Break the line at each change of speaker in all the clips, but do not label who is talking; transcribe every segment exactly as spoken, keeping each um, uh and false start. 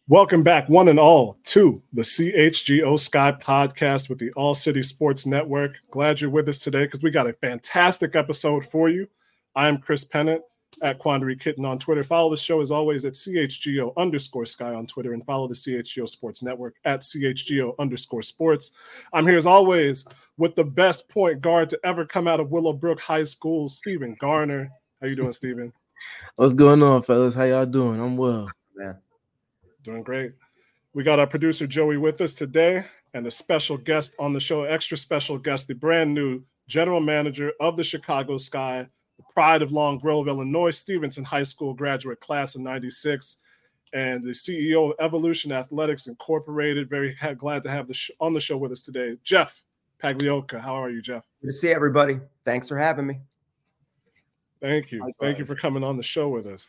Welcome back, one and all, to the C H G O Sky podcast with the All City Sports Network. Glad you're with us today because we got a fantastic episode for you. I'm Chris Pennant at Quandary Kitten on Twitter. Follow the show as always at C H G O underscore Sky on Twitter, and follow the C H G O Sports Network at C H G O underscore Sports. I'm here as always with the best point guard to ever come out of Willowbrook High School, Stephen Garner. How you doing, Stephen?
What's going on, fellas? How y'all doing? I'm well,
man.
Doing great. We got our producer Joey with us today, and a special guest on the show, extra special guest, the brand new general manager of the Chicago Sky, the pride of Long Grove, Illinois, Stevenson High School graduate class of ninety-six, and the C E O of Evolution Athletics Incorporated. Very glad to have the sh- on the show with us today, Jeff Pagliocca. How are you, Jeff?
Good to see everybody. Thanks for having me.
Thank you. Likewise. Thank you for coming on the show with us.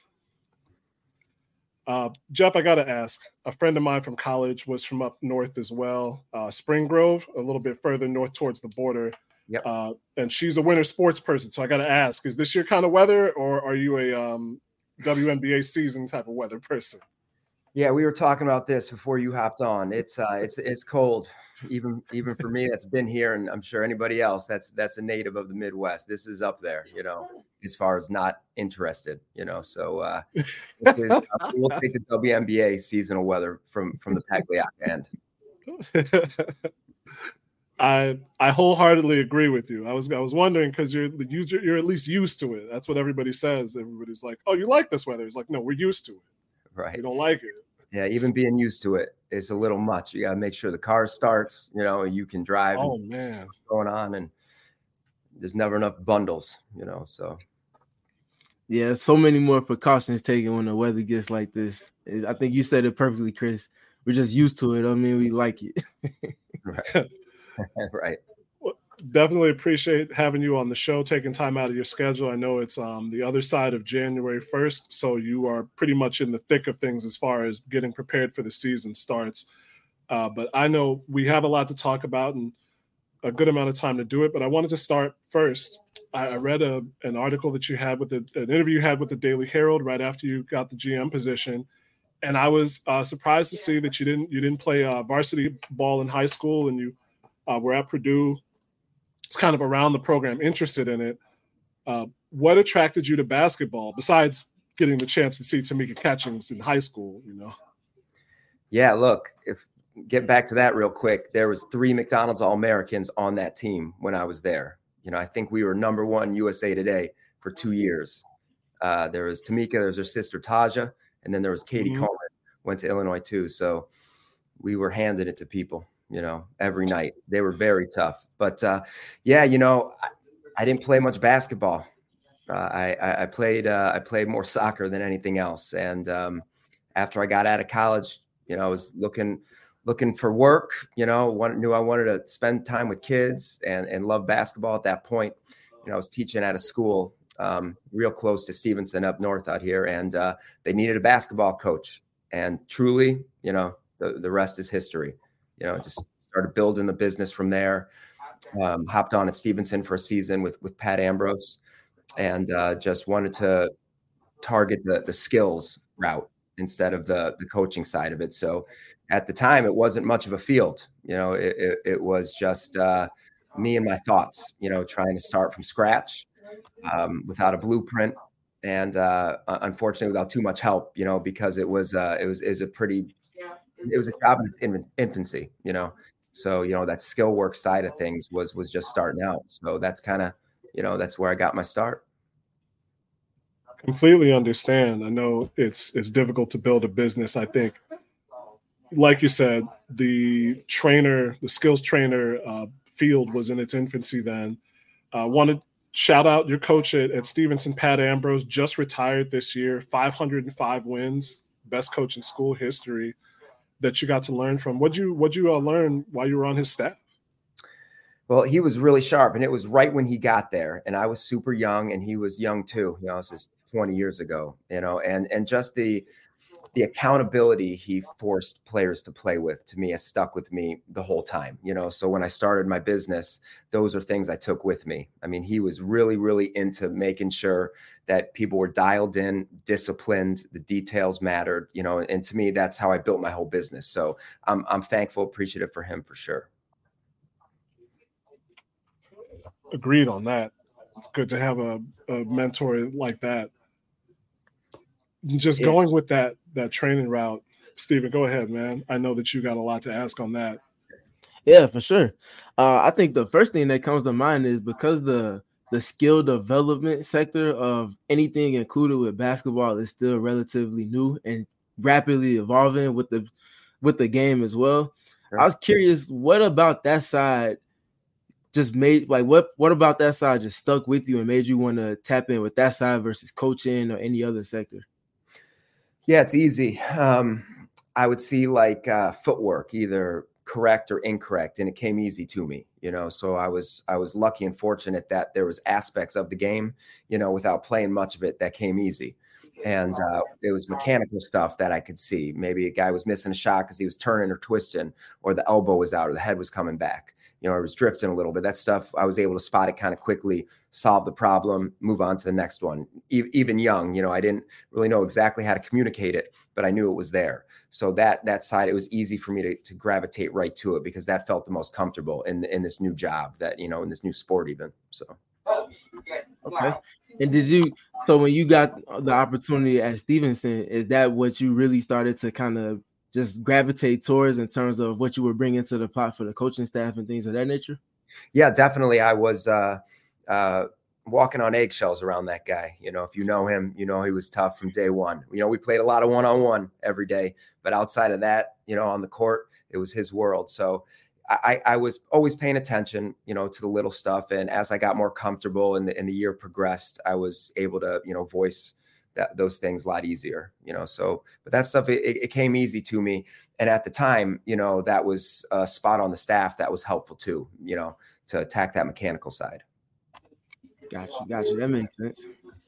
Uh, Jeff, I got to ask, a friend of mine from college was from up north as well, uh, Spring Grove, a little bit further north towards the border.
Yep.
Uh, and she's a winter sports person. So I got to ask, is this your kind of weather, or are you a um, W N B A season type of weather person?
Yeah, we were talking about this before you hopped on. It's uh, it's it's cold, even even for me that's been here, and I'm sure anybody else that's that's a native of the Midwest. This is up there, you know, as far as not interested, you know. So uh, is, uh, we'll take the W N B A seasonal weather from from the Pagliocca end.
I I wholeheartedly agree with you. I was I was wondering because you're the user, you're at least used to it. That's what everybody says. Everybody's like, "Oh, you like this weather?" It's like, no, we're used to it.
Right.
We don't like it.
Yeah, even being used to it is a little much. You got to make sure the car starts, you know, you can drive.
Oh, man.
What's going on, and there's never enough bundles, you know, so.
Yeah, so many more precautions taken when the weather gets like this. I think you said it perfectly, Chris. We're just used to it. I mean, we like it.
Right. Right.
Well, definitely appreciate having you on the show, taking time out of your schedule. I know it's um, the other side of January first, so you are pretty much in the thick of things as far as getting prepared for the season starts. Uh, but I know we have a lot to talk about and a good amount of time to do it. But I wanted to start first. I, I read a, an article that you had with the, an interview you had with the Daily Herald right after you got the G M position. And I was uh, surprised to see that you didn't you didn't play uh, varsity ball in high school, and you uh, were at Purdue. It's kind of around the program, interested in it. Uh, what attracted you to basketball besides getting the chance to see Tamika Catchings in high school? You know.
Yeah, look, if get back to that real quick, there was three McDonald's All-Americans on that team when I was there. You know, I think we were number one U S A Today for two years. Uh, there was Tamika, there was her sister Taja, and then there was Katie
mm-hmm.
Coleman, went to Illinois too. So we were handing it to people, you know, every night. They were very tough. But uh, yeah, you know, I, I didn't play much basketball. Uh, I, I played uh, I played more soccer than anything else. And um, after I got out of college, you know, I was looking looking for work. You know, one, knew I wanted to spend time with kids and and love basketball at that point. You know, I was teaching at a school um, real close to Stevenson up north out here, and uh, they needed a basketball coach. And truly, you know, the, the rest is history. You know, just started building the business from there. Um, hopped on at Stevenson for a season with with Pat Ambrose, and uh, just wanted to target the the skills route instead of the the coaching side of it. So at the time, it wasn't much of a field. You know, it, it, it was just uh, me and my thoughts, you know, trying to start from scratch um, without a blueprint. And uh, unfortunately, without too much help, you know, because it was uh, it was is a pretty it was a job in infancy, you know. So, you know, that skill work side of things was was just starting out. So that's kind of, you know, that's where I got my start.
Completely understand. I know it's it's difficult to build a business. I think, like you said, the trainer, the skills trainer uh, field was in its infancy then. Uh, wanted shout out your coach at, at Stevenson, Pat Ambrose, just retired this year, five hundred five wins, best coach in school history that you got to learn from. What'd you, what'd you uh, learn while you were on his staff?
Well, he was really sharp, and it was right when he got there, and I was super young, and he was young too. You know, I was his twenty years ago, you know, and, and just the, the accountability he forced players to play with, to me, has stuck with me the whole time, you know? So when I started my business, those are things I took with me. I mean, he was really, really into making sure that people were dialed in, disciplined, the details mattered, you know, and to me, that's how I built my whole business. So I'm, I'm thankful, appreciative for him for sure.
Agreed on that. It's good to have a, a mentor like that. Just yeah. going with that that training route, Steven, go ahead, man. I know that you got a lot to ask on that.
Yeah, for sure. Uh, I think the first thing that comes to mind is because the the skill development sector of anything included with basketball is still relatively new and rapidly evolving with the with the game as well. Sure. I was curious, what about that side just made like what what about that side just stuck with you and made you want to tap in with that side versus coaching or any other sector?
Yeah, it's easy. Um, I would see like uh, footwork, either correct or incorrect, and it came easy to me, you know. So I was I was lucky and fortunate that there was aspects of the game, you know, without playing much of it, that came easy. And uh, it was mechanical stuff that I could see. Maybe a guy was missing a shot because he was turning or twisting, or the elbow was out, or the head was coming back, you know, or it was drifting a little bit. That stuff, I was able to spot it kind of quickly, solve the problem, move on to the next one. E- even young, you know, I didn't really know exactly how to communicate it, but I knew it was there. So that that side, it was easy for me to, to gravitate right to it because that felt the most comfortable in in this new job, that, you know, in this new sport even. So.
Okay. And did you, so when you got the opportunity at Stevenson, is that what you really started to kind of just gravitate towards in terms of what you were bringing to the pot for the coaching staff and things of that nature?
Yeah, definitely. I was uh, uh, walking on eggshells around that guy. You know, if you know him, you know, he was tough from day one. You know, we played a lot of one-on-one every day, but outside of that, you know, on the court, it was his world. So I, I was always paying attention, you know, to the little stuff. And as I got more comfortable and the, and the year progressed, I was able to, you know, voice that those things a lot easier, you know, so, but that stuff, it, it came easy to me. And at the time, you know, that was a spot on the staff that was helpful too, you know, to attack that mechanical side.
Gotcha. Gotcha. That makes sense.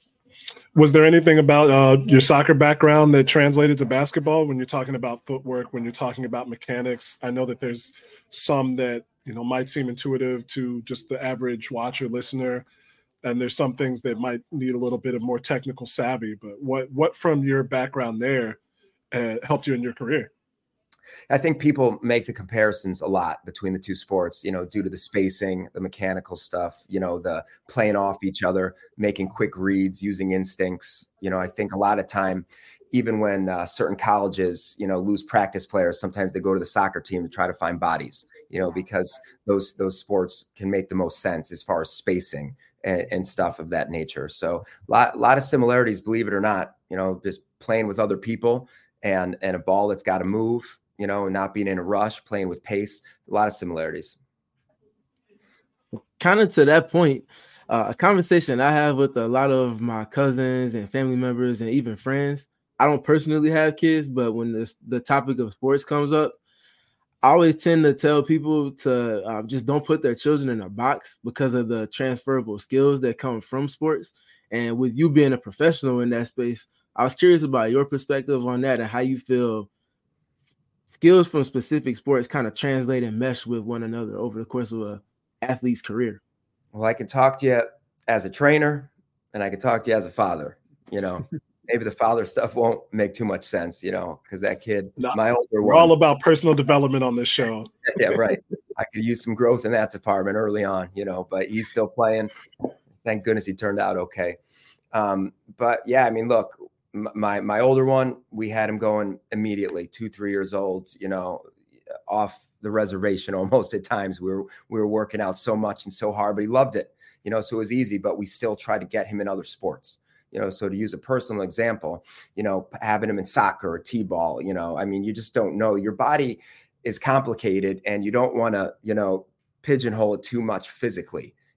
Was there anything about uh, your soccer background that translated to basketball when you're talking about footwork, when you're talking about mechanics? I know that there's some that, you know, might seem intuitive to just the average watcher, listener, and there's some things that might need a little bit of more technical savvy. But what what from your background there uh, helped you in your career?
I think people make the comparisons a lot between the two sports, you know, due to the spacing, the mechanical stuff, you know, the playing off each other, making quick reads, using instincts. You know, I think a lot of time, even when uh, certain colleges, you know, lose practice players, sometimes they go to the soccer team to try to find bodies, you know, because those those sports can make the most sense as far as spacing and, and stuff of that nature. So a lot, lot of similarities, believe it or not, you know, just playing with other people and and a ball that's got to move, you know, not being in a rush, playing with pace, a lot of similarities.
Kind of to that point, uh, a conversation I have with a lot of my cousins and family members and even friends. I don't personally have kids, but when the, the topic of sports comes up, I always tend to tell people to uh, just don't put their children in a box because of the transferable skills that come from sports. And with you being a professional in that space, I was curious about your perspective on that and how you feel skills from specific sports kind of translate and mesh with one another over the course of an athlete's career.
Well, I can talk to you as a trainer and I can talk to you as a father. You know, maybe the father stuff won't make too much sense, you know, because that kid, no, my older
we're
one,
all about personal development on this show.
Yeah, right. I could use some growth in that department early on, you know, but he's still playing. Thank goodness he turned out okay. Um, but yeah, I mean, look, my my older one, we had him going immediately, two, three years old, you know, off the reservation almost at times. We were we were working out so much and so hard, but he loved it, you know, so it was easy, but we still tried to get him in other sports. You know, so to use a personal example, you know, having him in soccer or t-ball, you know, I mean, you just don't know. Your body is complicated and you don't want to, you know, pigeonhole it too much physically.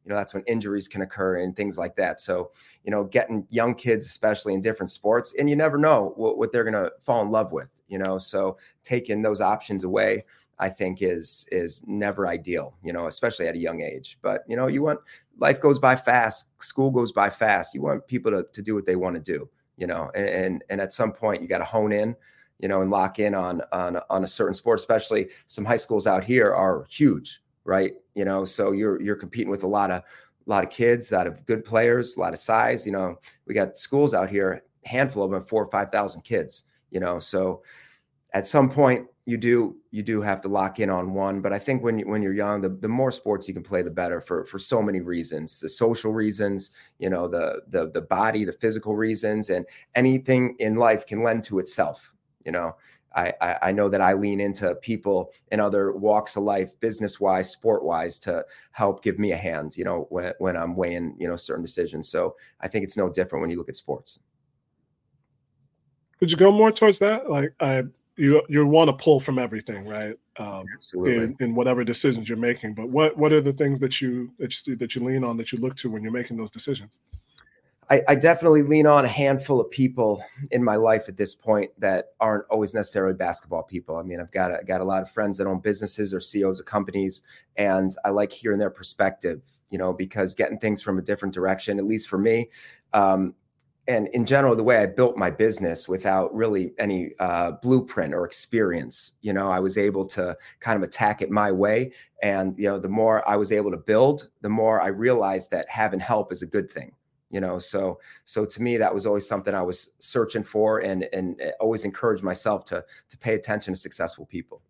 you know, that's when injuries can occur and things like that. So, you know, getting young kids, especially in different sports, and you never know what, what they're going to fall in love with, you know, so taking those options away, I think is, is never ideal, you know, especially at a young age. But, you know, you want, life goes by fast, school goes by fast. You want people to, to do what they want to do, you know, and, and, and at some point you got to hone in, you know, and lock in on, on, on a certain sport, especially some high schools out here are huge, right? You know, so you're, you're competing with a lot of, a lot of kids, a lot of good players, a lot of size, you know, we got schools out here, a handful of them, four or five thousand kids, you know, so at some point you do, you do have to lock in on one. But I think when you, when you're young, the, the more sports you can play, the better for, for so many reasons, the social reasons, you know, the, the, the body, the physical reasons, and anything in life can lend to itself. You know, I, I, I know that I lean into people in other walks of life, business wise, sport wise, to help give me a hand, you know, when, when I'm weighing, you know, certain decisions. So I think it's no different when you look at sports.
Could you go more towards that? Like, I, you you want to pull from everything, right? Um,
Absolutely.
In, in whatever decisions you're making. But what what are the things that you that you that you lean on, that you look to when you're making those decisions?
I, I definitely lean on a handful of people in my life at this point that aren't always necessarily basketball people. I mean, I've got a, got a lot of friends that own businesses or C E Os of companies, and I like hearing their perspective, you know, because getting things from a different direction, at least for me, um, and in general, the way I built my business without really any uh, blueprint or experience, you know, I was able to kind of attack it my way. And, you know, the more I was able to build, the more I realized that having help is a good thing. You know, so so to me, that was always something I was searching for, and and always encouraged myself to to pay attention to successful people.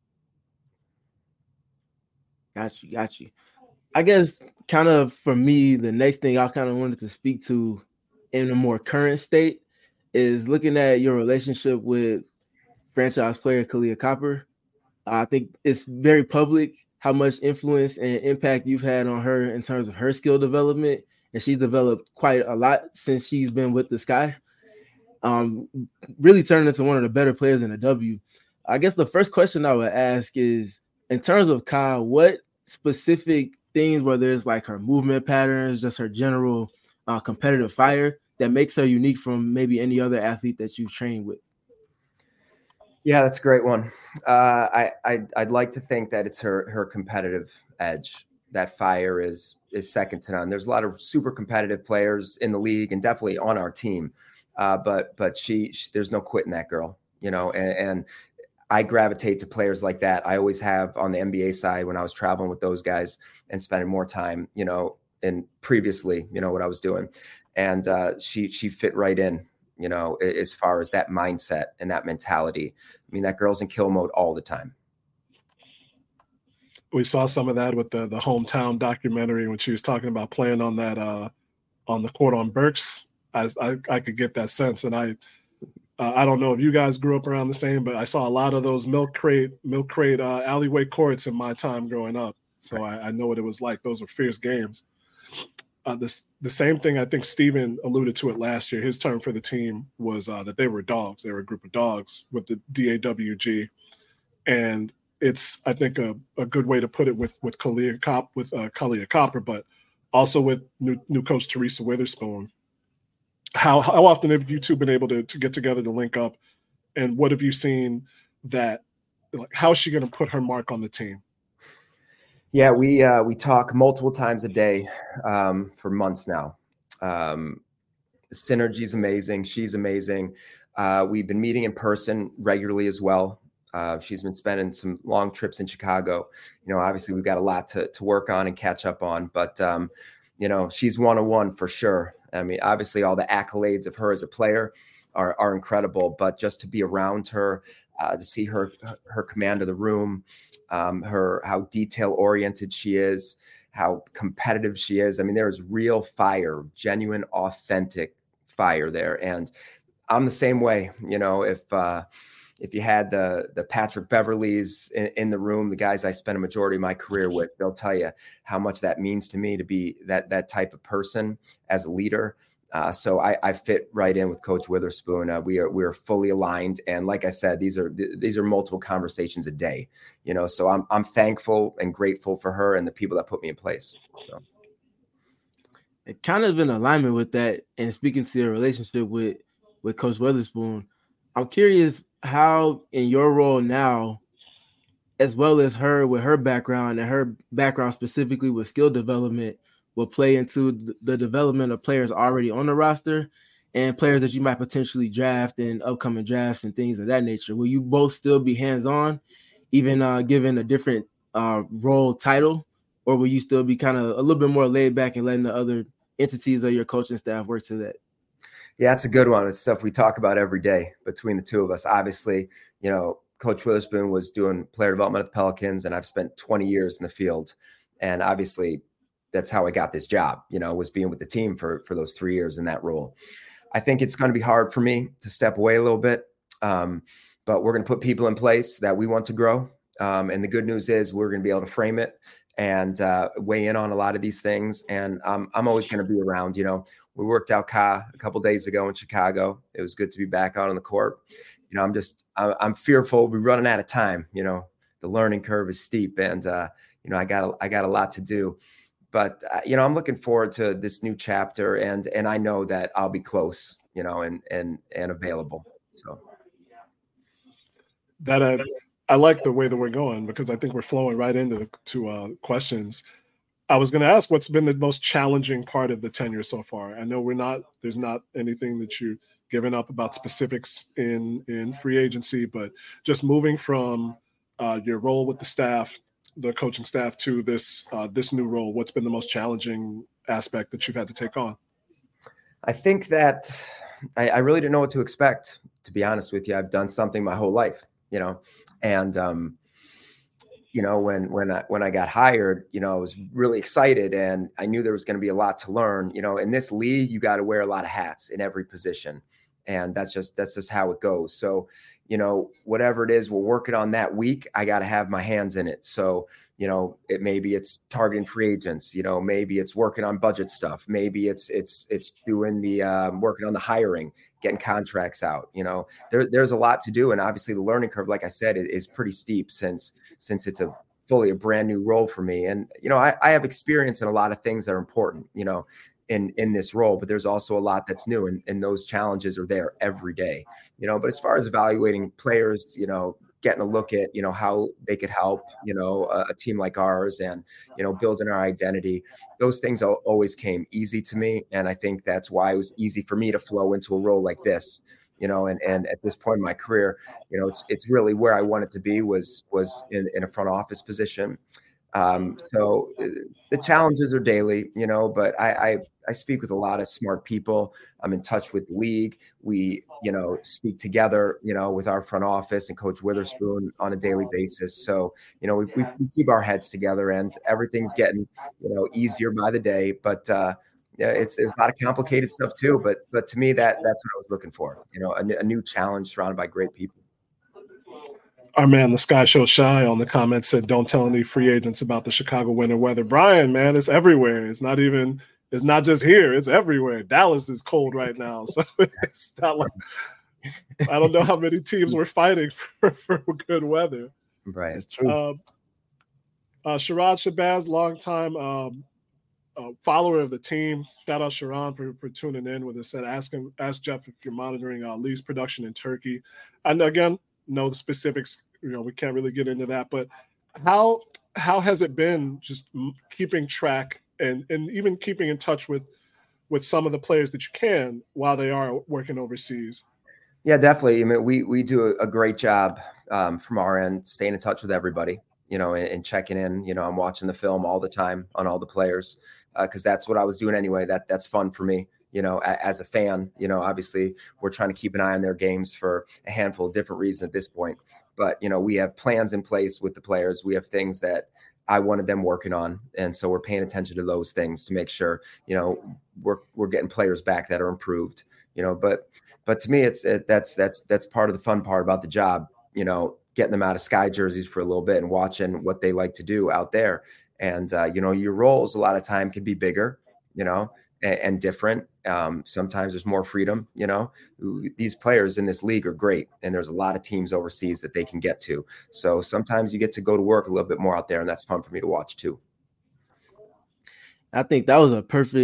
Got you, got you. I guess kind of for me, the next thing I kind of wanted to speak to in a more current state is looking at your relationship with franchise player Kahleah Copper. I think it's very public how much influence and impact you've had on her in terms of her skill development. And she's developed quite a lot since she's been with the Sky. Um, really turned into one of the better players in the W. I guess the first question I would ask is, in terms of Kyle, what specific things, whether it's like her movement patterns, just her general uh, competitive fire, that makes her unique from maybe any other athlete that you've trained with?
Yeah, that's a great one. Uh, I, I I'd like to think that it's her her competitive edge. That fire is is second to none. There's a lot of super competitive players in the league and definitely on our team, uh, but but she, she there's no quitting that girl, you know. And, and I gravitate to players like that. I always have on the N B A side when I was traveling with those guys and spending more time, you know, and previously, you know, what I was doing, and uh, she she fit right in, you know, as far as that mindset and that mentality. I mean, that girl's in kill mode all the time.
We saw some of that with the the hometown documentary when she was talking about playing on that uh, on the court on Berks. I, I I could get that sense, and I uh, I don't know if you guys grew up around the same, but I saw a lot of those milk crate milk crate uh, alleyway courts in my time growing up. So I, I know what it was like. Those were fierce games. Uh, this the same thing I think Steven alluded to it last year. His term for the team was uh, that they were dogs. They were a group of dogs with the D A W G, and it's, I think, a, a good way to put it with with Kahleah Cop with uh, Kahleah Copper, but also with new new coach Teresa Witherspoon. How how often have you two been able to to get together to link up, and what have you seen that, like, how is she going to put her mark on the team?
Yeah, we uh, we talk multiple times a day um, for months now. Um, the synergy is amazing. She's amazing. Uh, we've been meeting in person regularly as well. Uh, she's been spending some long trips in Chicago. You know, obviously we've got a lot to to work on and catch up on, but um, you know, she's one on one for sure. I mean, obviously all the accolades of her as a player are are incredible, but just to be around her, uh, to see her her command of the room, um, her how detail oriented she is, how competitive she is. I mean, there is real fire, genuine, authentic fire there, and I'm the same way. You know, if uh, If you had the the Patrick Beverleys in, in the room, the guys I spent a majority of my career with, they'll tell you how much that means to me to be that that type of person as a leader. Uh, so I, I fit right in with Coach Witherspoon. Uh, we are we are fully aligned, and like I said, these are th- these are multiple conversations a day. You know, so I'm I'm thankful and grateful for her and the people that put me in place. So.
kind of in alignment with that, and speaking to your relationship with with Coach Weatherspoon, I'm curious how in your role now, as well as her with her background and her background specifically with skill development, will play into the development of players already on the roster and players that you might potentially draft in upcoming drafts and things of that nature. Will you both still be hands-on, even uh, given a different uh, role title, or will you still be kind of a little bit more laid back and letting the other entities of your coaching staff work to that?
Yeah, it's a good one. It's stuff we talk about every day between the two of us. Obviously, you know, Coach Witherspoon was doing player development at the Pelicans, and I've spent twenty years in the field. And obviously, that's how I got this job, you know, was being with the team for, for those three years in that role. I think it's going to be hard for me to step away a little bit, um, but we're going to put people in place that we want to grow. Um, and the good news is we're going to be able to frame it and uh, weigh in on a lot of these things. And um, I'm always going to be around. You know, we worked out Ka a couple days ago in Chicago. It was good to be back out on the court. You know, I'm just, I'm fearful we're running out of time. You know, the learning curve is steep, and uh, you know, I got, I got a lot to do. But uh, you know, I'm looking forward to this new chapter, and and I know that I'll be close, you know, and and and available. So
that uh, I like the way that we're going, because I think we're flowing right into the, to uh, questions. I was going to ask, what's been the most challenging part of the tenure so far? I know we're not, there's not anything that you've given up about specifics in in free agency, but just moving from uh, your role with the staff, the coaching staff, to this uh, this new role, what's been the most challenging aspect that you've had to take on?
I think that I, I really didn't know what to expect, to be honest with you. I've done something my whole life, you know, and um, you know, when when I when I got hired, you know, I was really excited, and I knew there was going to be a lot to learn. You know, in this league, you got to wear a lot of hats in every position, and that's just that's just how it goes. So, you know, whatever it is we're working on that week, I got to have my hands in it. So, you know, it maybe it's targeting free agents, you know, maybe it's working on budget stuff. Maybe it's, it's, it's doing the, um, working on the hiring, getting contracts out, you know, there, there's a lot to do. And obviously the learning curve, like I said, is, is pretty steep since, since it's a fully a brand new role for me. And, you know, I, I have experience in a lot of things that are important, you know, in, in this role, but there's also a lot that's new, and, and those challenges are there every day, you know, but as far as evaluating players, you know, getting a look at, you know, how they could help, you know, a, a team like ours, and, you know, building our identity, those things always came easy to me. And I think that's why it was easy for me to flow into a role like this, you know, and, and at this point in my career, you know, it's, it's really where I wanted to be was, was in, in a front office position. Um, so the challenges are daily, you know, but I, I, I speak with a lot of smart people. I'm in touch with the league. We, you know, speak together, you know, with our front office and Coach Witherspoon on a daily basis. So, you know, we, we, we keep our heads together, and everything's getting, you know, easier by the day, but, uh, yeah, it's, there's a lot of complicated stuff too, but, but to me, that that's what I was looking for, you know, a, a new challenge surrounded by great people.
Our man, the Sky Show Shy, on the comments said, don't tell any free agents about the Chicago winter weather. Brian, man, it's everywhere. It's not even, it's not just here. It's everywhere. Dallas is cold right now. So it's not like, I don't know how many teams were fighting for, for good weather.
Right.
It's true.
Uh, uh, Sherrod Shabazz, longtime um, uh, follower of the team. Shout out Sharon for, for tuning in with us. Said, ask him, ask Jeff if you're monitoring uh, Lee's production in Turkey. And again, know the specifics, you know, we can't really get into that, but how how has it been just keeping track and and even keeping in touch with with some of the players that you can while they are working overseas?
Yeah, definitely. I mean, we we do a, a great job um, from our end, staying in touch with everybody, you know, and, and checking in. You know, I'm watching the film all the time on all the players, because uh, that's what I was doing anyway. That that's fun for me. You know, as a fan, you know, obviously we're trying to keep an eye on their games for a handful of different reasons at this point. But, you know, we have plans in place with the players. We have things that I wanted them working on. And so we're paying attention to those things to make sure, you know, we're, we're getting players back that are improved, you know, but, but to me, it's, it, that's, that's, that's part of the fun part about the job, you know, getting them out of Sky jerseys for a little bit and watching what they like to do out there. And, uh, you know, your roles a lot of time can be bigger, you know, and, and different. Um, sometimes there's more freedom, you know, these players in this league are great. And there's a lot of teams overseas that they can get to. So sometimes you get to go to work a little bit more out there, and that's fun for me to watch too.
I think that was a perfect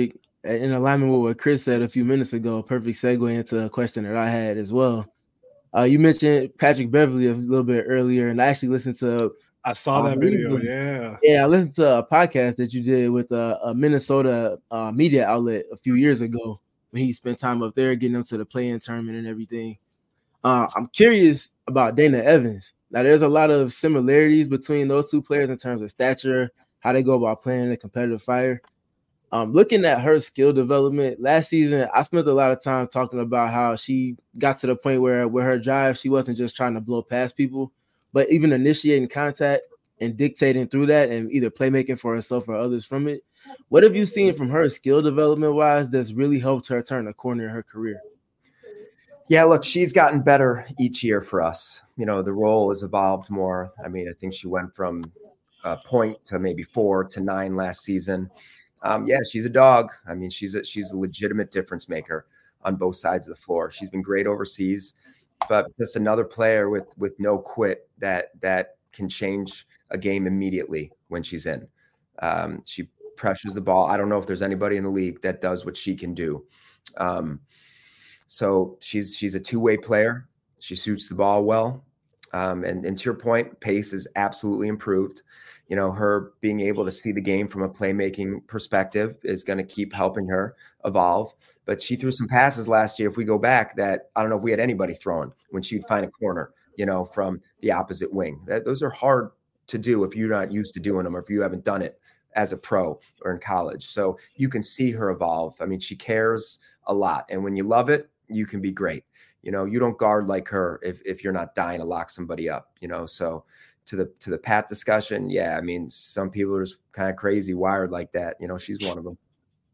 in alignment with what Chris said a few minutes ago, perfect segue into a question that I had as well. Uh, you mentioned Patrick Beverley a little bit earlier, and I actually listened to.
I saw
I
that video.
was,
yeah,
yeah, I listened to a podcast that you did with a, a Minnesota uh, media outlet a few years ago when he spent time up there getting them to the play-in tournament and everything. Uh, I'm curious about Dana Evans. Now, there's a lot of similarities between those two players in terms of stature, how they go about playing a competitive fire. Um, looking at her skill development last season, I spent a lot of time talking about how she got to the point where with her drive, she wasn't just trying to blow past people, but even initiating contact and dictating through that and either playmaking for herself or others from it. What have you seen from her skill development wise that's really helped her turn a corner in her career?
Yeah, look, she's gotten better each year for us. You know, the role has evolved more. I mean, I think she went from a point to maybe four to nine last season. Um, yeah, she's a dog. I mean, she's a, she's a legitimate difference maker on both sides of the floor. She's been great overseas, but just another player with with no quit that that can change a game immediately when she's in. Um, she pressures the ball. I don't know if there's anybody in the league that does what she can do. Um, so she's she's a two-way player. She shoots the ball well. Um, and, and to your point, pace is absolutely improved. You know, her being able to see the game from a playmaking perspective is going to keep helping her evolve. But she threw some passes last year, if we go back, that I don't know if we had anybody throwing when she'd find a corner, you know, from the opposite wing. That, those are hard to do if you're not used to doing them or if you haven't done it as a pro or in college. So you can see her evolve. I mean, she cares a lot. And when you love it, you can be great. You know, you don't guard like her if, if you're not dying to lock somebody up, you know, so to the to the Pat discussion, yeah, I mean, some people are just kind of crazy wired like that. You know, she's one of them.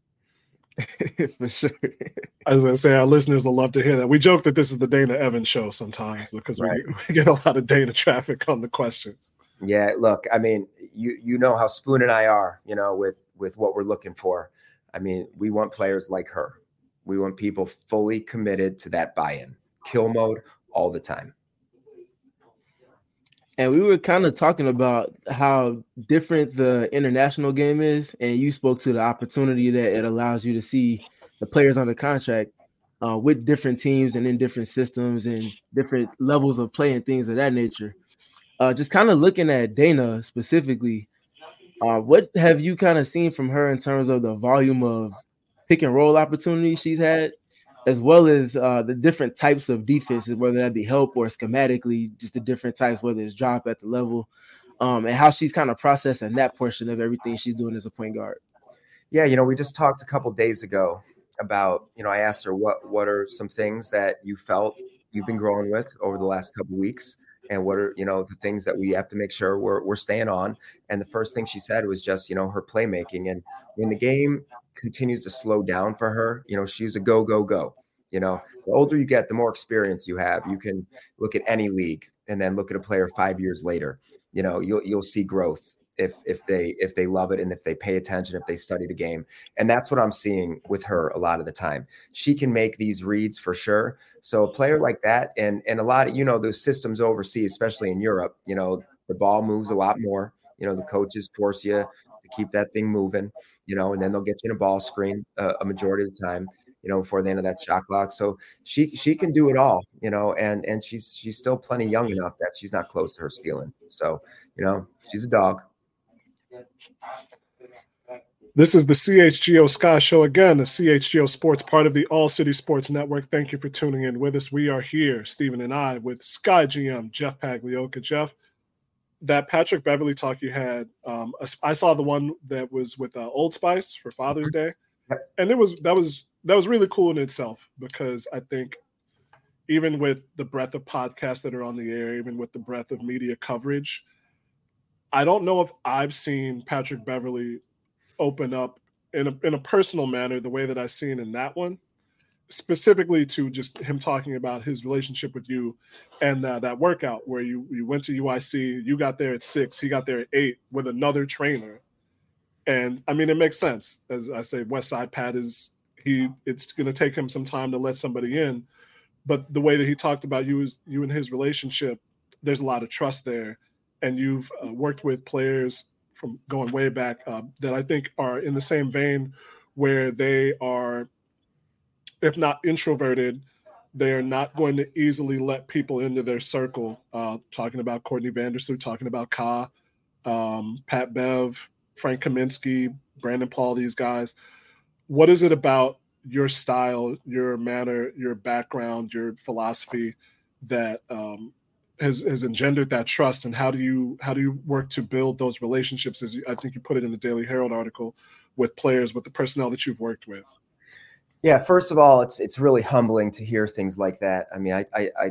For sure.
I was going to say, our listeners will love to hear that. We joke that this is the Dana Evans show sometimes because right. we, we get a lot of Dana traffic on the questions.
Yeah, look, I mean, you you know how Spoon and I are, you know, with with what we're looking for. I mean, we want players like her. We want people fully committed to that buy-in, kill mode all the time.
And we were kind of talking about how different the international game is, and you spoke to the opportunity that it allows you to see the players under contract uh, with different teams and in different systems and different levels of play and things of that nature. Uh, just kind of looking at Dana specifically, uh, what have you kind of seen from her in terms of the volume of pick and roll opportunities she's had, as well as uh, the different types of defenses, whether that be help or schematically, just the different types, whether it's drop at the level, um, and how she's kind of processing that portion of everything she's doing as a point guard.
Yeah, you know, we just talked a couple of days ago about, you know, I asked her what what are some things that you felt you've been growing with over the last couple of weeks, and what are, you know, the things that we have to make sure we're we're staying on. And the first thing she said was just, you know, her playmaking. And when the game continues to slow down for her, you know, she's a go, go, go. You know, the older you get, the more experience you have. You can look at any league and then look at a player five years later. You know, you'll you'll see growth if if they if they love it and if they pay attention, if they study the game. And that's what I'm seeing with her a lot of the time. She can make these reads for sure. So a player like that, and and a lot of, you know, those systems overseas, especially in Europe, you know, the ball moves a lot more. You know, the coaches force you to keep that thing moving, you know, and then they'll get you in a ball screen uh, a majority of the time, you know, before the end of that shot clock. So she she can do it all, you know, and and she's she's still plenty young enough that she's not close to her stealing. So, you know, she's a dog.
This is the C H G O Sky Show again, the C H G O Sports, part of the All City Sports Network. Thank you for tuning in with us. We are here, Stephen and I, with Sky G M Jeff Pagliocca. Jeff, that Patrick Beverley talk you had, um, I saw the one that was with uh, Old Spice for Father's Day, and it was that was that was really cool in itself, because I think even with the breadth of podcasts that are on the air, even with the breadth of media coverage, I don't know if I've seen Patrick Beverley open up in a in a personal manner the way that I've seen in that one, specifically to just him talking about his relationship with you and uh, that workout where you, you went to U I C, you got there at six, he got there at eight with another trainer. And I mean, it makes sense. As I say, Westside Pat is, he, it's going to take him some time to let somebody in, but the way that he talked about you is you and his relationship, there's a lot of trust there. And you've uh, worked with players from going way back uh, that I think are in the same vein where they are, if not introverted, they are not going to easily let people into their circle. Uh, talking about Courtney Vandersloot, talking about Ka, um, Pat Bev, Frank Kaminsky, Brandon Paul, these guys. What is it about your style, your manner, your background, your philosophy that um, has, has engendered that trust? And how do you how do you work to build those relationships? As you, I think you put it in the Daily Herald article, with players, with the personnel that you've worked with.
Yeah, first of all, it's it's really humbling to hear things like that. I mean, I I, I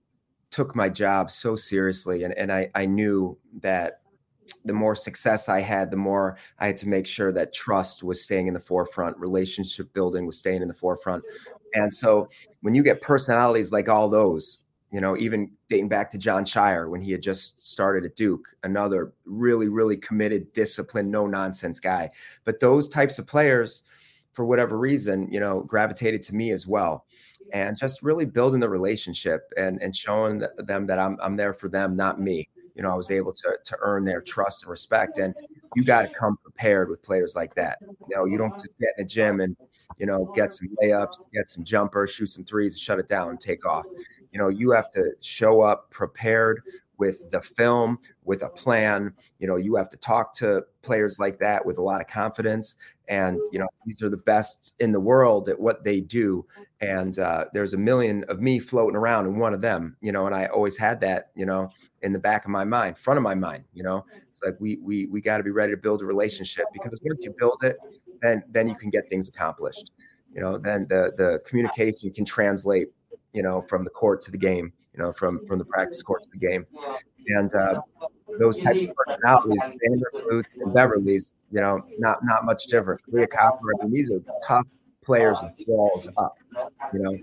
took my job so seriously, and, and I, I knew that the more success I had, the more I had to make sure that trust was staying in the forefront, relationship building was staying in the forefront. And so when you get personalities like all those, you know, even dating back to John Shire when he had just started at Duke, another really, really committed, disciplined, no nonsense guy. But those types of players, for whatever reason, you know, gravitated to me as well. And just really building the relationship and, and showing them that I'm I'm there for them, not me. You know, I was able to to earn their trust and respect. And you got to come prepared with players like that. You know, you don't just get in a gym and, you know, get some layups, get some jumpers, shoot some threes, shut it down and take off. You know, you have to show up prepared with the film, with a plan. You know, you have to talk to players like that with a lot of confidence. And, you know, these are the best in the world at what they do. And uh, there's a million of me floating around in one of them, you know, and I always had that, you know, in the back of my mind, front of my mind, you know, it's like we, we, we got to be ready to build a relationship, because once you build it, then, then you can get things accomplished. You know, then the, the communication can translate, you know, from the court to the game, you know, from, from the practice court to the game. And uh, those types of personalities, Vandersloot and Beverly's, you know, not, not much different. Kahleah Copper, I mean, these are tough players with walls up, you know.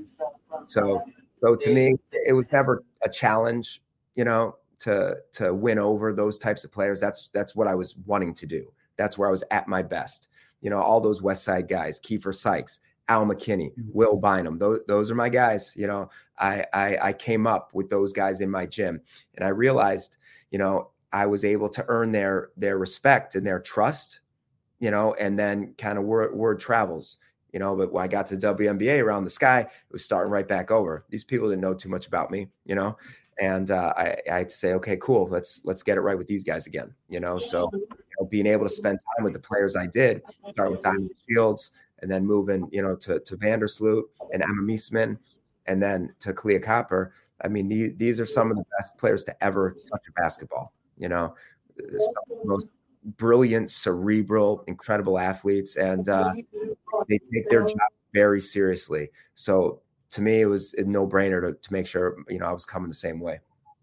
So, so to me, it was never a challenge, you know, to to win over those types of players. That's that's what I was wanting to do. That's where I was at my best. You know, all those West Side guys, Kiefer Sykes, Al McKinney, Will Bynum, those, those are my guys. You know, I, I I came up with those guys in my gym, and I realized, you know, I was able to earn their their respect and their trust, you know, and then kind of word, word travels, you know. But when I got to the W N B A around the sky, it was starting right back over. These people didn't know too much about me, you know, and uh, I, I had to say, okay, cool, let's let's get it right with these guys again, you know. So you know, being able to spend time with the players I did, start with Diamond Shields, and then moving, you know, to to Vandersloot and Emma Meesman, and then to Kahleah Copper. I mean, these, these are some of the best players to ever touch a basketball. You know, some of the most brilliant, cerebral, incredible athletes, and uh, they take their job very seriously. So to me, it was a no-brainer to, to make sure, you know, I was coming the same way.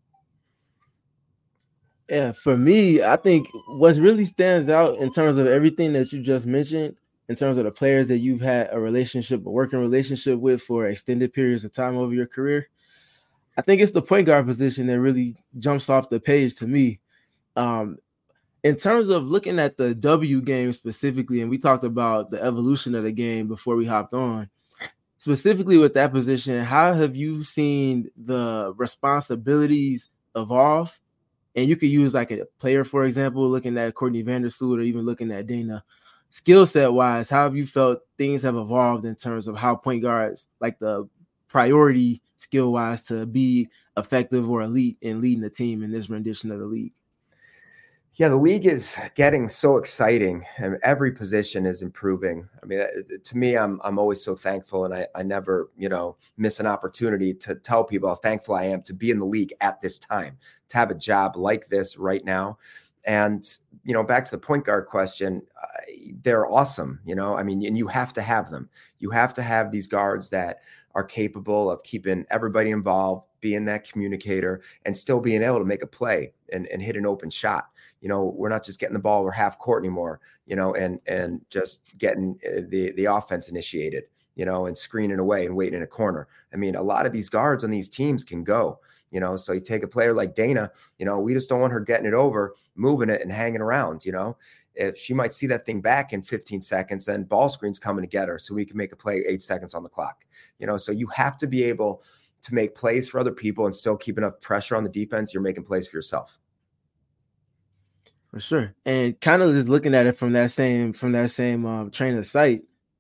Yeah, for me, I think what really stands out in terms of everything that you just mentioned, in terms of the players that you've had a relationship, a working relationship with for extended periods of time over your career, I think it's the point guard position that really jumps off the page to me. Um, in terms of looking at the W game specifically, and we talked about the evolution of the game before we hopped on, specifically with that position, how have you seen the responsibilities evolve? And you could use like a player, for example, looking at Courtney Vandersloot or even looking at Dana. Skill set wise, how have you felt things have evolved in terms of how point guards, like the priority skill wise, to be effective or elite in leading the team in this rendition of the league?
Yeah, the league is getting so exciting, and every position is improving. I mean, to me, I'm I'm always so thankful, and I, I never, you know, miss an opportunity to tell people how thankful I am to be in the league at this time, to have a job like this right now. And, you know, back to the point guard question, uh, they're awesome, you know, I mean, and you have to have them. You have to have these guards that are capable of keeping everybody involved, being that communicator, and still being able to make a play and, and hit an open shot. You know, we're not just getting the ball over half court anymore, you know, and and just getting the, the offense initiated, you know, and screening away and waiting in a corner. I mean, a lot of these guards on these teams can go, you know, so you take a player like Dana, you know, we just don't want her getting it over, moving it and hanging around, you know. If she might see that thing back in fifteen seconds, then ball screen's coming to get her so we can make a play eight seconds on the clock, you know. So you have to be able to make plays for other people and still keep enough pressure on the defense. You're making plays for yourself.
For sure. And kind of just looking at it from that same from that same um, train of sight,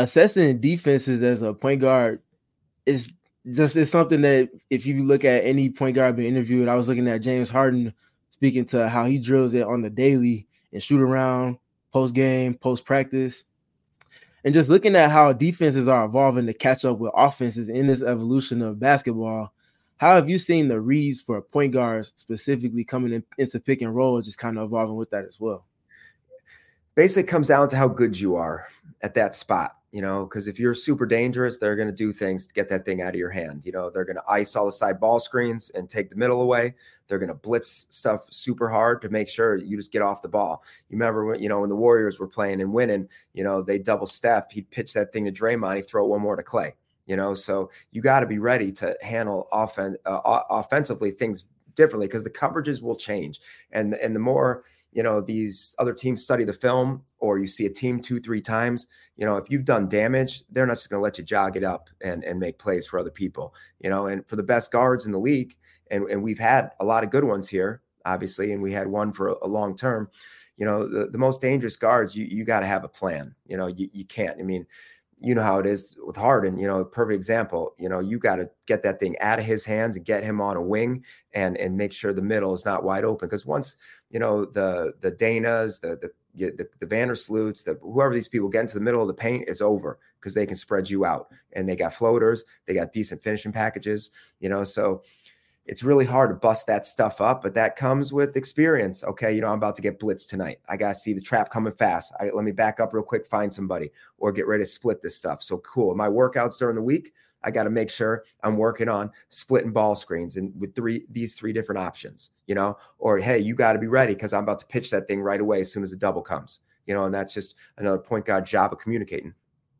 assessing defenses as a point guard is just it's something that if you look at any point guard being interviewed, I was looking at James Harden speaking to how he drills it on the daily and shoot around, post game, post practice, and just looking at how defenses are evolving to catch up with offenses in this evolution of basketball. How have you seen the reads for point guards specifically coming in, into pick and roll, just kind of evolving with that as well?
Basically, it comes down to how good you are at that spot, you know, because if you're super dangerous, they're going to do things to get that thing out of your hand. You know, they're going to ice all the side ball screens and take the middle away. They're going to blitz stuff super hard to make sure you just get off the ball. You remember when, you know, when the Warriors were playing and winning, you know, they double Steph, he'd pitch that thing to Draymond, he'd throw one more to Clay. You know, so you got to be ready to handle offen- uh, offensively things differently because the coverages will change. And, and the more, you know, these other teams study the film or you see a team two, three times, you know, if you've done damage, they're not just going to let you jog it up and, and make plays for other people, you know, and for the best guards in the league. And, and we've had a lot of good ones here, obviously, and we had one for a, a long term, you know, the, the most dangerous guards, you, you got to have a plan, you know, you, you can't, I mean, you know how it is with Harden, you know, perfect example, you know, you got to get that thing out of his hands and get him on a wing and, and make sure the middle is not wide open. Cause once, you know, the, the Danas, the, the, the, the Vandersloots, the, whoever these people get into the middle of the paint, it's over because they can spread you out and they got floaters, they got decent finishing packages, you know, so it's really hard to bust that stuff up, but that comes with experience. Okay, you know, I'm about to get blitzed tonight. I got to see the trap coming fast. I, let me back up real quick, find somebody, or get ready to split this stuff. So cool. My workouts during the week, I got to make sure I'm working on splitting ball screens and with three these three different options, you know, or hey, you got to be ready because I'm about to pitch that thing right away as soon as the double comes, you know, and that's just another point guard job of communicating.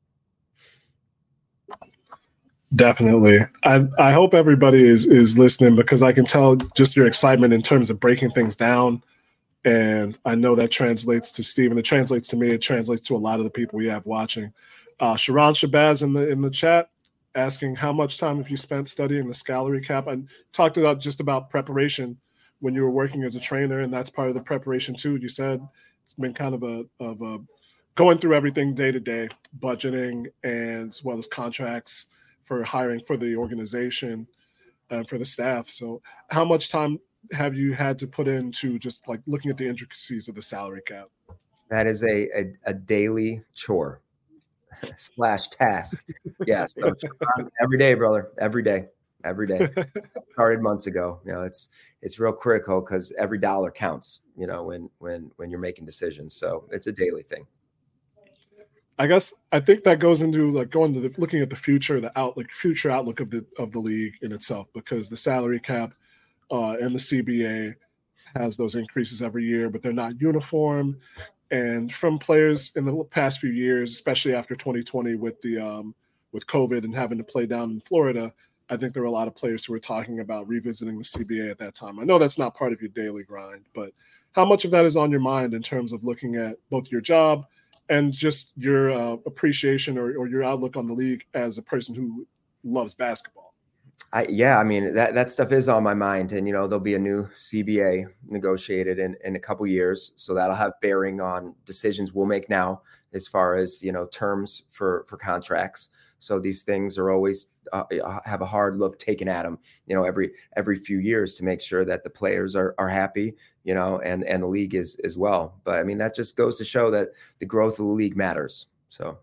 Definitely. I I hope everybody is is listening because I can tell just your excitement in terms of breaking things down. And I know that translates to Steven. It translates to me. It translates to a lot of the people we have watching. Uh, Sharon Shabazz in the in the chat asking how much time have you spent studying the salary cap? I talked about just about preparation when you were working as a trainer, and that's part of the preparation too. You said it's been kind of a of a going through everything day to day, budgeting and as well as contracts for hiring for the organization and for the staff. So how much time have you had to put into just like looking at the intricacies of the salary cap?
That is a, a, a daily chore slash task. Yes. Yeah, so every day, brother, every day, every day. Started months ago. You know, it's, it's real critical because every dollar counts, you know, when, when, when you're making decisions. So it's a daily thing.
I guess I think that goes into like going to the, looking at the future, the outlook, future outlook of the of the league in itself, because the salary cap uh, and the C B A has those increases every year, but they're not uniform. And from players in the past few years, especially after twenty twenty with the um, with COVID and having to play down in Florida, I think there were a lot of players who were talking about revisiting the C B A at that time. I know that's not part of your daily grind, but how much of that is on your mind in terms of looking at both your job and just your uh, appreciation or, or your outlook on the league as a person who loves basketball?
I, yeah, I mean, that, that stuff is on my mind. And, you know, there'll be a new C B A negotiated in, in a couple years. So that'll have bearing on decisions we'll make now as far as, you know, terms for, for contracts. So these things are always uh, have a hard look taken at them, you know, every every few years to make sure that the players are are happy, you know, and, and the league is as well. But I mean, that just goes to show that the growth of the league matters. So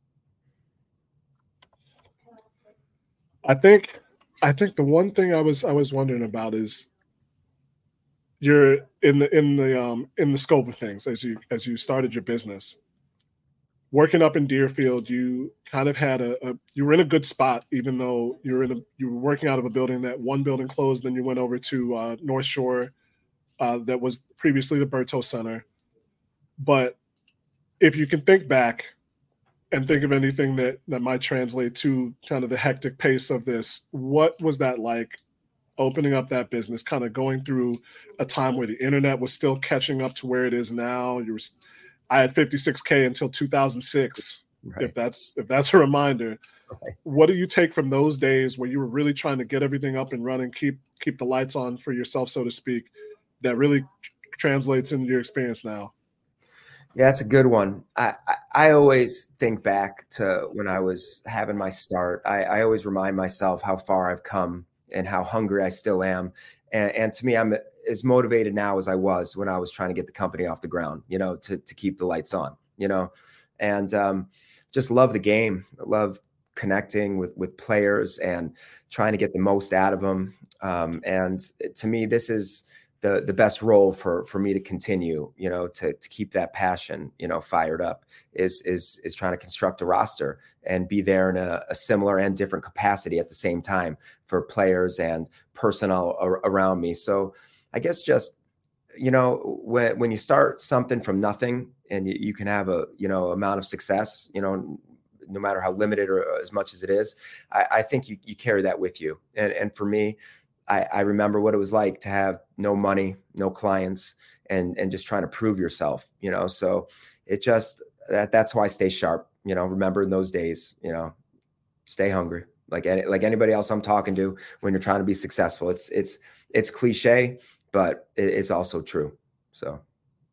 I think I think the one thing I was I was wondering about is you're in the in the um in the scope of things as you as you started your business. Working up in Deerfield, you kind of had a, a you were in a good spot, even though you were in a you were working out of a building that one building closed, then you went over to uh, North Shore, uh, that was previously the Berto Center. But if you can think back and think of anything that that might translate to kind of the hectic pace of this, what was that like? Opening up that business, kind of going through a time where the internet was still catching up to where it is now. You were I had fifty-six K until two thousand six, right. if that's if that's a reminder. Right. What do you take from those days where you were really trying to get everything up and running, keep keep the lights on for yourself, so to speak, that really translates into your experience now?
Yeah, that's a good one. I, I, I always think back to when I was having my start. I, I always remind myself how far I've come and how hungry I still am. And, and to me, I'm as motivated now as I was when I was trying to get the company off the ground, you know, to, to keep the lights on, you know, and um, just love the game. I love connecting with, with players and trying to get the most out of them. Um, and to me, this is the the best role for for me to continue, you know, to to keep that passion, you know, fired up is is is trying to construct a roster and be there in a, a similar and different capacity at the same time for players and personnel ar- around me. So I guess just, you know, when when you start something from nothing and you, you can have a, you know, amount of success, you know, no matter how limited or as much as it is, I, I think you you carry that with you. And and for me, I, I remember what it was like to have no money, no clients, and and just trying to prove yourself, you know. So it just that that's why I stay sharp, you know. Remember in those days, you know, stay hungry, like any, like anybody else I'm talking to when you're trying to be successful. It's it's it's cliche, but it, it's also true. So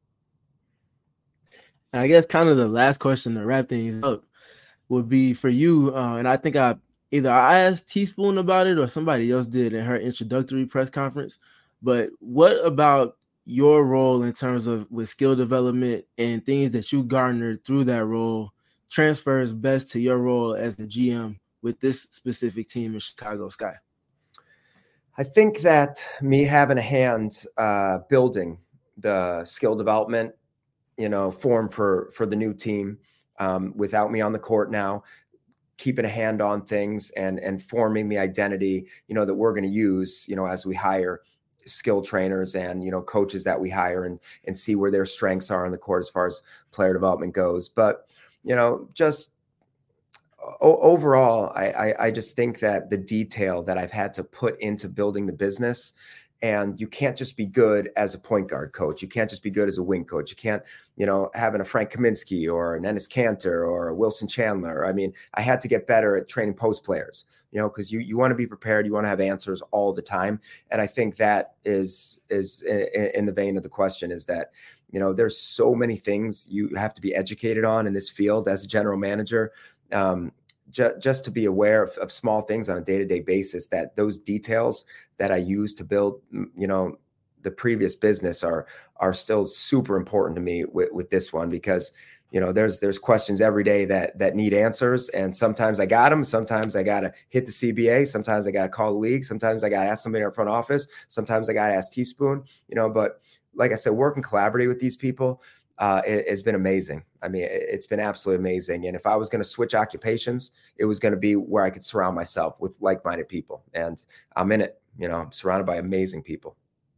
I guess kind of the last question to wrap things up would be for you, uh, and I think I either I asked Teaspoon about it or somebody else did in her introductory press conference. But what about your role in terms of with skill development and things that you garnered through that role transfers best to your role as the G M with this specific team in Chicago Sky?
I think that me having a hand uh, building the skill development, you know, form for for the new team, um, without me on the court now, keeping a hand on things and and forming the identity, you know, that we're going to use, you know, as we hire skill trainers and, you know, coaches that we hire and and see where their strengths are on the court as far as player development goes. But, you know, just o- overall, I, I I just think that the detail that I've had to put into building the business. And you can't just be good as a point guard coach. You can't just be good as a wing coach. You can't, you know, having a Frank Kaminsky or an Enes Kanter or a Wilson Chandler. I mean, I had to get better at training post players, you know, because you you want to be prepared. You want to have answers all the time. And I think that is is in, in the vein of the question is that, you know, there's so many things you have to be educated on in this field as a general manager. Um, Just, just to be aware of, of small things on a day-to-day basis, that those details that I use to build, you know, the previous business are are still super important to me with, with this one, because, you know, there's there's questions every day that that need answers, and sometimes I got them, sometimes I got to hit the C B A, sometimes I got to call the league, sometimes I got to ask somebody in our front office, sometimes I got to ask Teaspoon, you know. But like I said, working collaboratively with these people, Uh, it, it's been amazing. I mean, it, it's been absolutely amazing. And if I was going to switch occupations, it was going to be where I could surround myself with like-minded people. And I'm in it, you know, I'm surrounded by amazing people.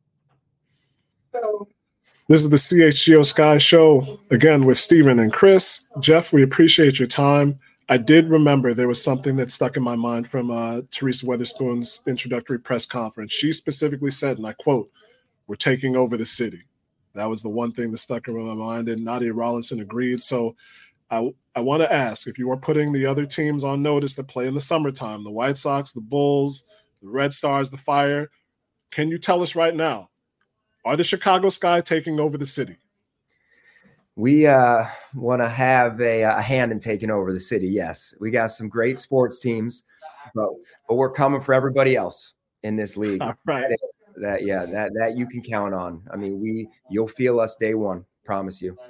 This is the C H G O Sky Show, again with Stephen and Chris. Jeff, we appreciate your time. I did remember there was something that stuck in my mind from uh, Teresa Weatherspoon's introductory press conference. She specifically said, and I quote, "We're taking over the city." That was the one thing that stuck in my mind, and Nadia Rollinson agreed. So I, I want to ask, if you are putting the other teams on notice that play in the summertime, the White Sox, the Bulls, the Red Stars, the Fire, can you tell us right now, are the Chicago Sky taking over the city?
We uh, want to have a, a hand in taking over the city. Yes, we got some great sports teams, but but we're coming for everybody else in this league.
All right.
That yeah, that that you can count on. I mean, we you'll feel us day one. Promise you.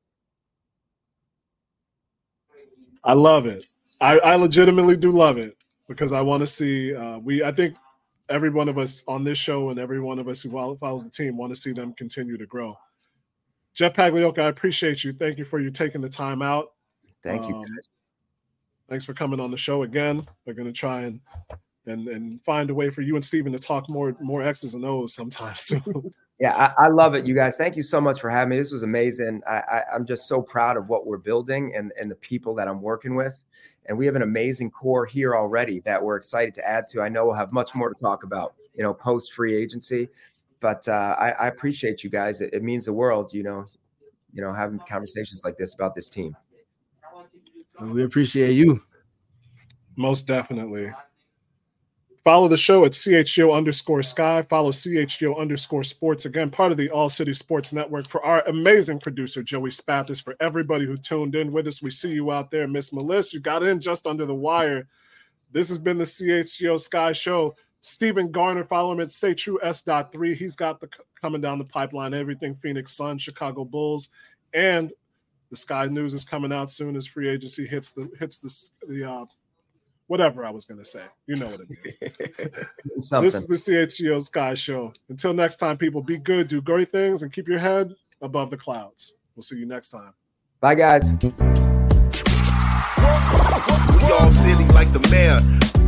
I love it. I, I legitimately do love it, because I want to see uh, we. I think every one of us on this show and every one of us who follows the team want to see them continue to grow. Jeff Pagliocca, I appreciate you. Thank you for you taking the time out.
Thank you.
Um, thanks for coming on the show again. We're going to try and and and find a way for you and Stephen to talk more more X's and O's sometime soon.
Yeah, I, I love it, you guys. Thank you so much for having me. This was amazing. I, I, I'm just so proud of what we're building and, and the people that I'm working with. And we have an amazing core here already that we're excited to add to. I know we'll have much more to talk about, you know, post free agency. But uh, I, I appreciate you guys. It, it means the world, you know, you know, having conversations like this about this team.
We appreciate you.
Most definitely. Follow the show at C H G O underscore Sky. Follow C H G O underscore Sports. Again, part of the All City Sports Network. For our amazing producer, Joey Spathis, for everybody who tuned in with us, we see you out there. Miss Melissa, you got in just under the wire. This has been the C H G O Sky Show. Stephen Garner, follow him at Say True S dot three. He's got the coming down the pipeline, everything Phoenix Suns, Chicago Bulls, and the Sky News is coming out soon as free agency hits the hits the the uh, whatever I was going to say. You know what it is. This is the C H G O Sky Show. Until next time, people, be good, do great things, and keep your head above the clouds. We'll see you next time.
Bye, guys.
We all silly like the mayor.